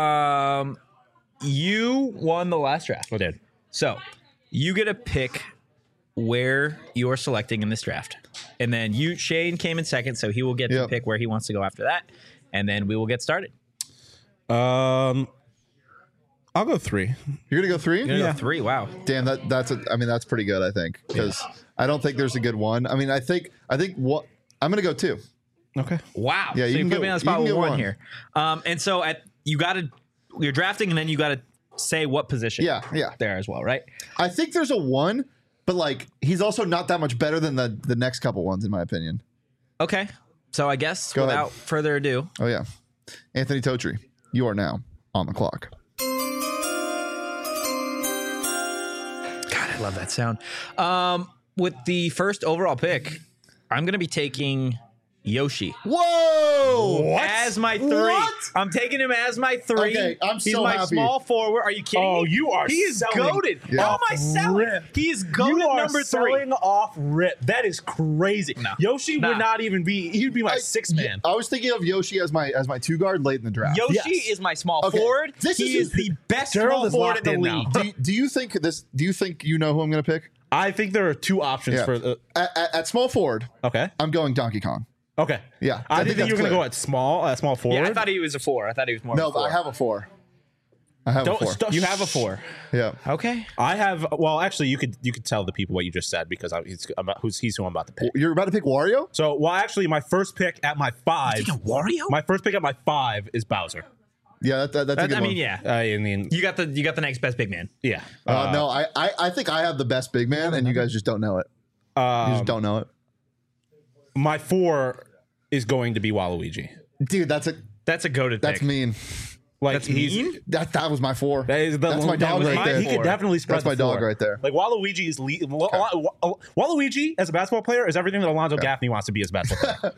You won the last draft. Oh, dude. So you get to pick where you're selecting in this draft. And then Shane came in second, so he will get to Yep. pick where he wants to go after that. And then we will get started. I'll go 3. You're gonna go 3? You're gonna go 3. Wow. Damn, that's pretty good. I think because I don't think there's a good one. I mean, I think what I'm gonna go 2. Okay. Wow. Yeah, so you you can put go- me on the you spot can with go 1 1. here. And so you're drafting, and then you got to say what position. Yeah. There as well, right? I think there's a 1, but like he's also not that much better than the next couple ones, in my opinion. Okay. So I guess Go ahead. without further ado, Oh yeah, Anthony Totri, you are now on the clock. God, I love that sound. With the first overall pick, I'm going to be taking Yoshi. Whoa! As my 3. What? I'm taking him as my 3. Okay, I'm He's so my happy. small forward. Are you kidding Oh, me? you are He is selling goaded. Yeah. How am I selling? rip. He is goaded You are number 3. selling off rip. That is crazy. No. Yoshi Nah. would not even be. He'd be my sixth man. I was thinking of Yoshi as my 2 guard late in the draft. Yoshi Yes. is my small Okay, forward. this He is- is the best Gerald small is forward locked in the in league. now. Do you think you know who I'm going to pick? I think there are 2 options Yeah. for. At small forward, Okay. I'm going Donkey Kong. Okay. Yeah, I I think think you were that's going to clear. go at small forward. Yeah, I thought he was a 4. I thought he was more No, of a 4. but I have a 4. I have a 4. You have a 4. Yeah. Okay. I have. Well, actually, you could tell the people what you just said because he's who I'm about to pick. You're about to pick Wario? So, well, actually, my first pick at my 5. Wario? My first pick at my 5 is Bowser. Yeah, that's a good I one. mean, yeah. I mean, You got the next best big man. yeah. No, I think I have the best big man, and you guys just don't know it. You just don't know it. My 4 is going to be Waluigi. Dude, that's That's a goaded that's pick. mean. Like That's he's mean? That was my 4. that is the, That's my that dog was right my- there. He could definitely spread That's my the floor. dog right there. Like Waluigi is Waluigi as a basketball player is everything that Alonzo Gaffney wants to be as a basketball player.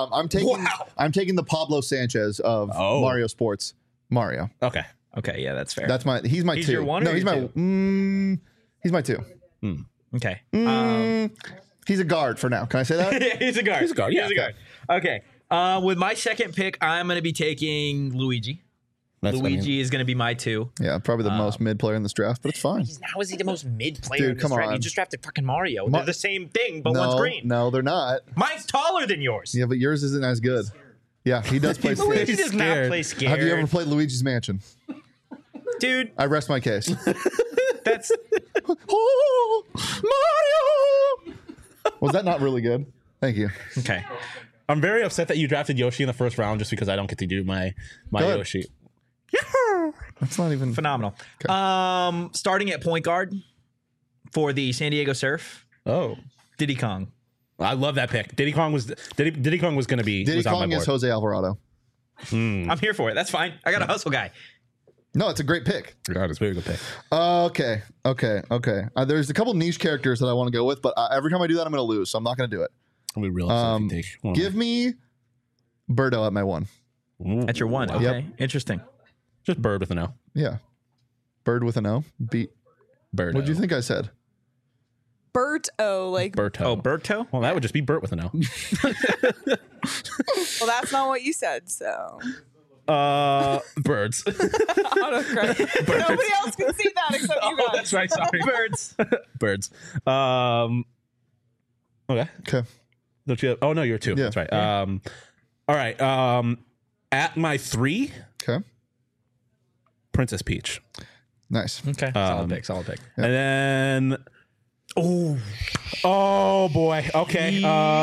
I'm taking the Pablo Sanchez of Oh. Mario Sports. Mario. Okay. Okay, yeah, that's fair. He's my He's 2. your 1 No, or he's your my he's my 2. okay. He's a guard for now. Can I say that? Yeah, he's a guard. He's a guard, yeah. He's a guard. Okay. With my second pick, I'm going to be taking Luigi. Luigi is going to be my 2. Yeah, probably the most mid player in this draft, but it's fine. How is he the most mid player Dude, in this come draft? on. You just drafted fucking Mario. They're the same thing, but one's green. No, they're not. Mine's taller than yours. Yeah, but yours isn't as good. Yeah, he does play Luigi scared. does not scared. play scared. Have you ever played Luigi's Mansion? Dude, I rest my case. that's Oh, Mario! Was that not really good? Thank you. okay. I'm very upset that you drafted Yoshi in the first round just because I don't get to do my Good. Yoshi. That's not even Phenomenal. Starting at point guard for the San Diego Surf, Oh. Diddy Kong. I love that pick. Diddy Kong was going to be Diddy was on Kong my is board. Jose Alvarado. I'm here for it. That's fine. I got a hustle guy. No, it's a great pick. God, it's a very good pick. Okay. There's a couple niche characters that I want to go with, but every time I do that, I'm going to lose, so I'm not going to do it. I'll be real upset if you take one. Give me Birdo at my 1. At your 1. Okay. Interesting. Just Bird with an O. Yeah. Bird with an O. Bird. What do you think I said? Bert-O, like, Berto. Oh, Berto? Well, that would just be Bert with an O. well, that's not what you said, so. Birds. Autocorrect. Nobody else can see that except you guys. That's right. Sorry. Birds. Birds. Okay. Okay. Don't you have, oh no, you're 2. Yeah. That's right. All right. At my 3, Okay. Princess Peach. Nice. Okay. Solid pick. Solid pick. And then oh boy. Okay.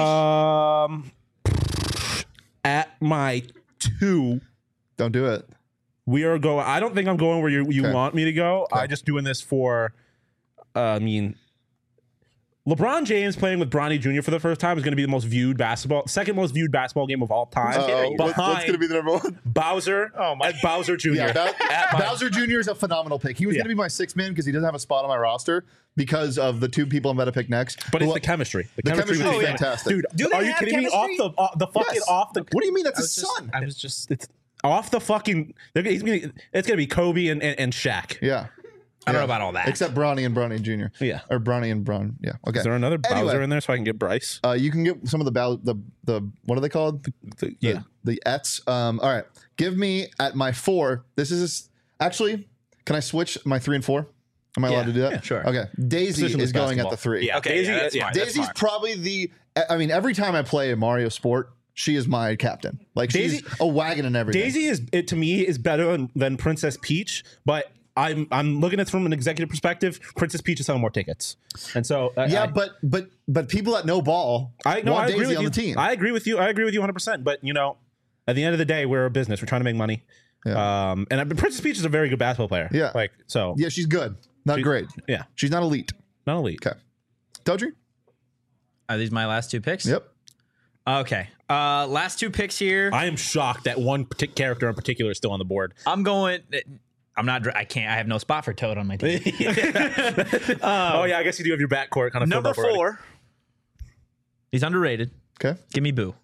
At my 2, Don't do it. we are going. I don't think I'm going where you Okay. want me to go. I'm just doing this for. I mean, LeBron James playing with Bronny Jr. for the first time is going to be the most viewed second most viewed basketball game of all time. What's going to be the number 1? Bowser? And Bowser Jr. Yeah, Bowser Jr. is a phenomenal pick. He was Yeah. going to be my 6th man because he doesn't have a spot on my roster because of the 2 people I'm about to pick next. But it's Who- the chemistry. The chemistry with is these fantastic. Dude, Do they are you have kidding me? chemistry? Off the fucking Yes. off the. What do you mean? That's his son. I was just. It's off the fucking. It's gonna be Kobe and Shaq. Yeah. I don't know about all that. Except Bronny and Bronny Jr. Yeah. Or Bronny and Bron. Yeah. Okay. Is there another Anyway. Bowser in there so I can get Bryce? You can get some of the what are they called? Yeah. The Ets. All right. Give me at my 4. This is actually. Can I switch my 3 and 4? Am I allowed to do that? Yeah, sure. Okay. Daisy Positionless is going at basketball. the 3. Yeah. Okay. Daisy- That's yeah. fine. That's Daisy's fine. probably I mean, every time I play a Mario sport, she is my captain. Like she's Daisy- a wagon and everything. Daisy to me is better than Princess Peach, but I'm looking at it from an executive perspective. Princess Peach is selling more tickets, and so but people that know ball I want agree Daisy with on you. the team. I agree with you. 100%. But at the end of the day, we're a business. We're trying to make money. Yeah. And Princess Peach is a very good basketball player. Yeah. Yeah, she's good. Not great. Yeah. She's not elite. Not elite. Okay. Dodry? Are these my last 2 picks? Yep. Okay. Last 2 picks here. I am shocked that one character in particular is still on the board. I'm going. I'm not. I can't. I have no spot for Toad on my team. Oh yeah, I guess you do have your backcourt kind of Number filled up already. 4. He's underrated. Okay. Give me Boo.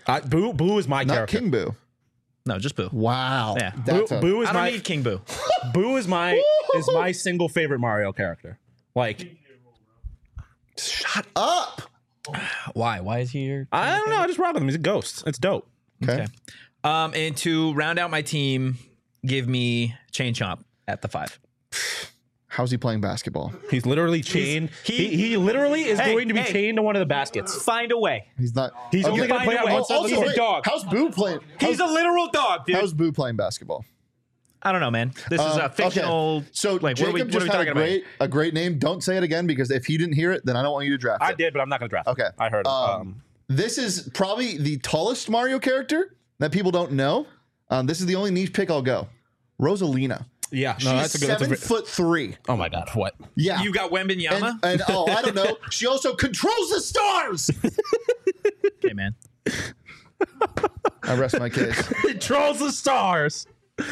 Boo is my Not character. King Boo. No, just Boo. Wow. Yeah. Boo is I don't my need King Boo. Boo is my single favorite Mario character. Like, Shut up. Why? Why is he here? I don't know. I just rock with him. He's a ghost. It's dope. Okay. And to round out my team, give me Chain Chomp at the 5. How's he playing basketball? He's literally chained. He literally is going to be chained to one of the baskets. Find a way. He's not. He's only going to play on one side of the He's a court. dog. How's Boo playing? He's a literal dog, dude. How's Boo playing basketball? I don't know, man. This is a fictional. Okay. So like, Jacob what are just we had talking a great name. Don't say it again because if he didn't hear it, then I don't want you to draft it. I did, but I'm not going to draft. Okay. I heard. This is probably the tallest Mario character that people don't know. This is the only niche pick I'll go. Rosalina. Yeah, She's 7'3". Oh my god, what? Yeah. You got Wembenyama? And I don't know. She also controls the stars. Okay, man. I rest my case. Controls the stars.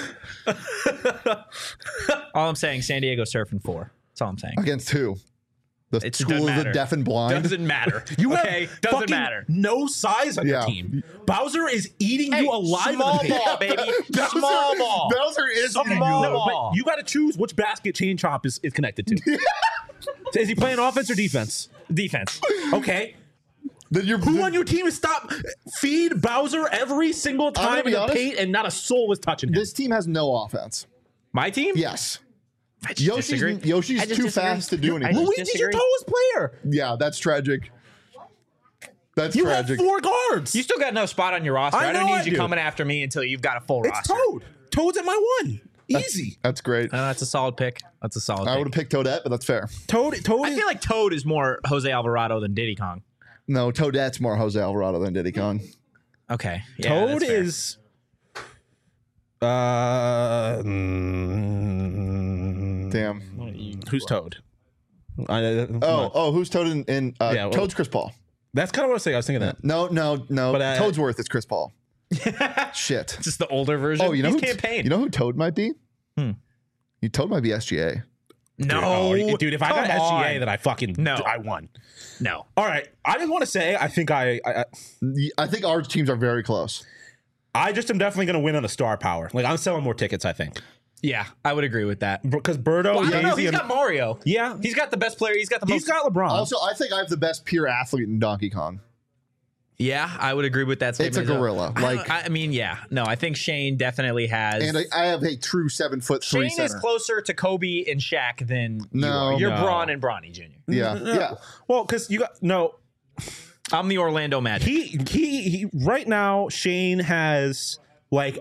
All I'm saying, San Diego Surfing 4. That's all I'm saying. Against who? The It School doesn't of the matter. Deaf and Blind. Doesn't matter. You okay? have Doesn't fucking matter. no size on your Yeah. team. Bowser is eating you alive. Small in the paint. ball, baby. Small ball. Bowser is Small eating you. ball. No, but you got to choose which basket Chain Chomp is connected to. Is he playing offense or defense? Defense. Okay. Then you're, Who on your team is feed Bowser every single gonna time be in the honest, paint and not a soul was touching him? This team has no offense. My team? Yes. I just disagree. Yoshi's I just too disagree. fast to do I anything. just Luigi's your disagree. tallest player. Yeah, that's tragic. That's You tragic. have 4 guards. You still got no spot on your roster. I I don't know I need you do. coming after me until you've got a full It's roster. Toad. Toad's at my 1. Easy. That's great. That's a solid pick. That's a solid I would pick. have picked Toadette, but that's fair. Toad I is feel like Toad is more Jose Alvarado than Diddy Kong. No, Toadette's more Jose Alvarado than Diddy Kong. Okay. Yeah, Toad that's fair. is Damn. who's Toad? Who's Toad in Yeah, well- Toad's Chris Paul. That's kind of what I was saying. I was thinking that. No. But, Toadsworth is Chris Paul. Shit. Just the older version. Oh, you know He's who campaign. You know who Toad might be? Toad might be SGA. no, Dude, if I got come SGA, on. then I won. No. All right, I just want to say I think I I think our teams are very close. just am definitely going to win on the star power. Like I'm selling more tickets. I think Yeah, I would agree with that. because Birdo, Well, I don't know. Daisy, He's and got Mario. yeah, He's got the best player. He's got the he's most. got LeBron. Also, I think I have the best pure athlete in Donkey Kong. Yeah, I would agree with that statement. It's a as well. gorilla. I don't- Like- I mean, yeah. No, I think Shane definitely has. And I have a true 7'3" Shane center. is closer to Kobe and Shaq than you No. are. You're No. Braun and Bronny Jr. Yeah. well, because you got no. I'm the Orlando Magic. He right now Shane has like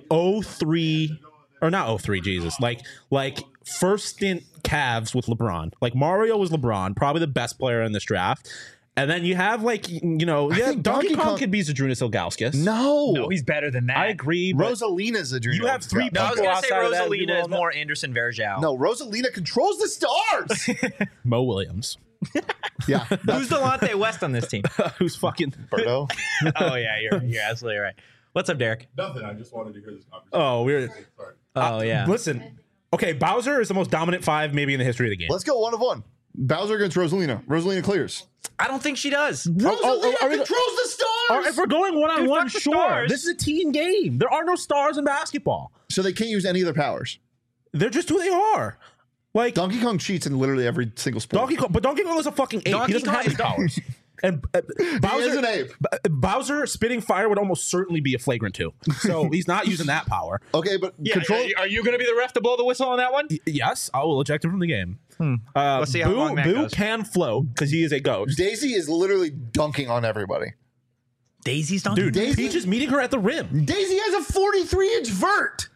03 or not 03 Jesus like first stint Cavs with LeBron. Like Mario was LeBron, probably the best player in this draft. And then you have think Donkey Kong Kong- could be Zadrunas Ilgauskas. No. he's better than that. I agree. But Rosalina's a dream. You have 3 No, I was people going to say outside of that Rosalina people is more Anderson Varejao. No, Rosalina controls the stars. Mo Williams, Yeah. Who's Delonte West on this team? who's fucking. Birdo. Oh, yeah, you're absolutely right. What's up, Derek? Nothing. I just wanted to hear this conversation. Oh, we're Sorry. Oh, yeah. listen. Okay, Bowser is the most dominant 5 maybe in the history of the game. Let's go 1 of 1. Bowser against Rosalina. Rosalina clears. I don't think she does. Rosalina are we- controls the stars. If we're going one-on-one, fuck the sure. stars. This is a team game. There are no stars in basketball. So they can't use any of their powers. They're just who they are. Like Donkey Kong cheats in literally every single sport. Donkey Kong is a fucking ape. Donkey He doesn't Kong have his is- powers. And Bowser, is an ape. Bowser spitting fire would almost certainly be a flagrant 2. So he's not using that power. Okay, but control. Are you going to be the ref to blow the whistle on that one? Yes, I will eject him from the game. Let's see how long that Boo goes. can float because he is a ghost. Daisy is literally dunking on everybody. Daisy's donkey. Dude, Daisy- Peach is meeting her at the rim. Daisy has a 43-inch vert.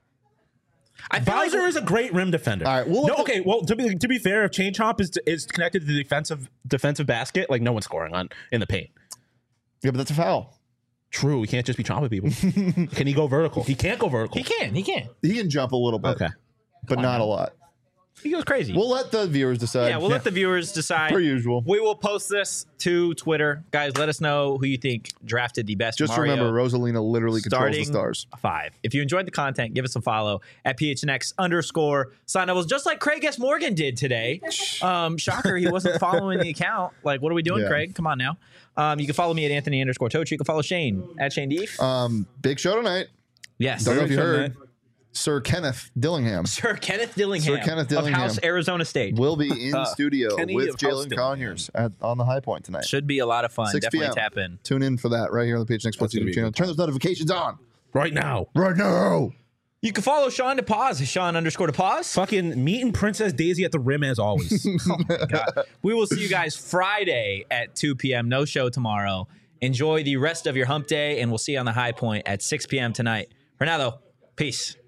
I feel Bowser like is a great rim defender. All right, we'll no, look okay. Well, to be fair, if Chain Chomp is connected to the defensive basket, like no one's scoring on in the paint. Yeah, but that's a foul. True, he can't just be chomping people. Can he go vertical? He can't go vertical. he can. He can jump a little bit. Okay. But not a lot. He goes crazy. We'll let the viewers decide. We'll let the viewers decide. Per usual. We will post this to Twitter. Guys, let us know who you think drafted the best Just Mario remember, Rosalina literally controls the starting stars. 5. If you enjoyed the content, give us a follow at PHNX_Sign Levels, just like Craig S. Morgan did today. Shocker, he wasn't following the account. Like, what are we doing, Yeah. Craig? Come on now. You can follow me at Anthony_Tochi. You can follow Shane at Shane Deef. Big show tonight. Yes. Don't know if you show heard. Sir Kenneth Dillingham Sir Kenneth Dillingham, Sir Kenneth of Dillingham. House Arizona State. will be in studio Kenny with of House Jalen Dillingham. Conyers on the High Point tonight. Should be a lot of fun. 6 Definitely p.m. tap in. Tune in for that right here on the PHNX Sports That's gonna YouTube be a channel. good Turn those notifications on Right now. right now. You can follow Sean DePaz, Sean_DePaz. Fucking meeting Princess Daisy at the rim as always. God. We will see you guys Friday at 2 p.m. No show tomorrow. Enjoy the rest of your hump day, and we'll see you on the High Point at 6 p.m. tonight. For now, though, peace.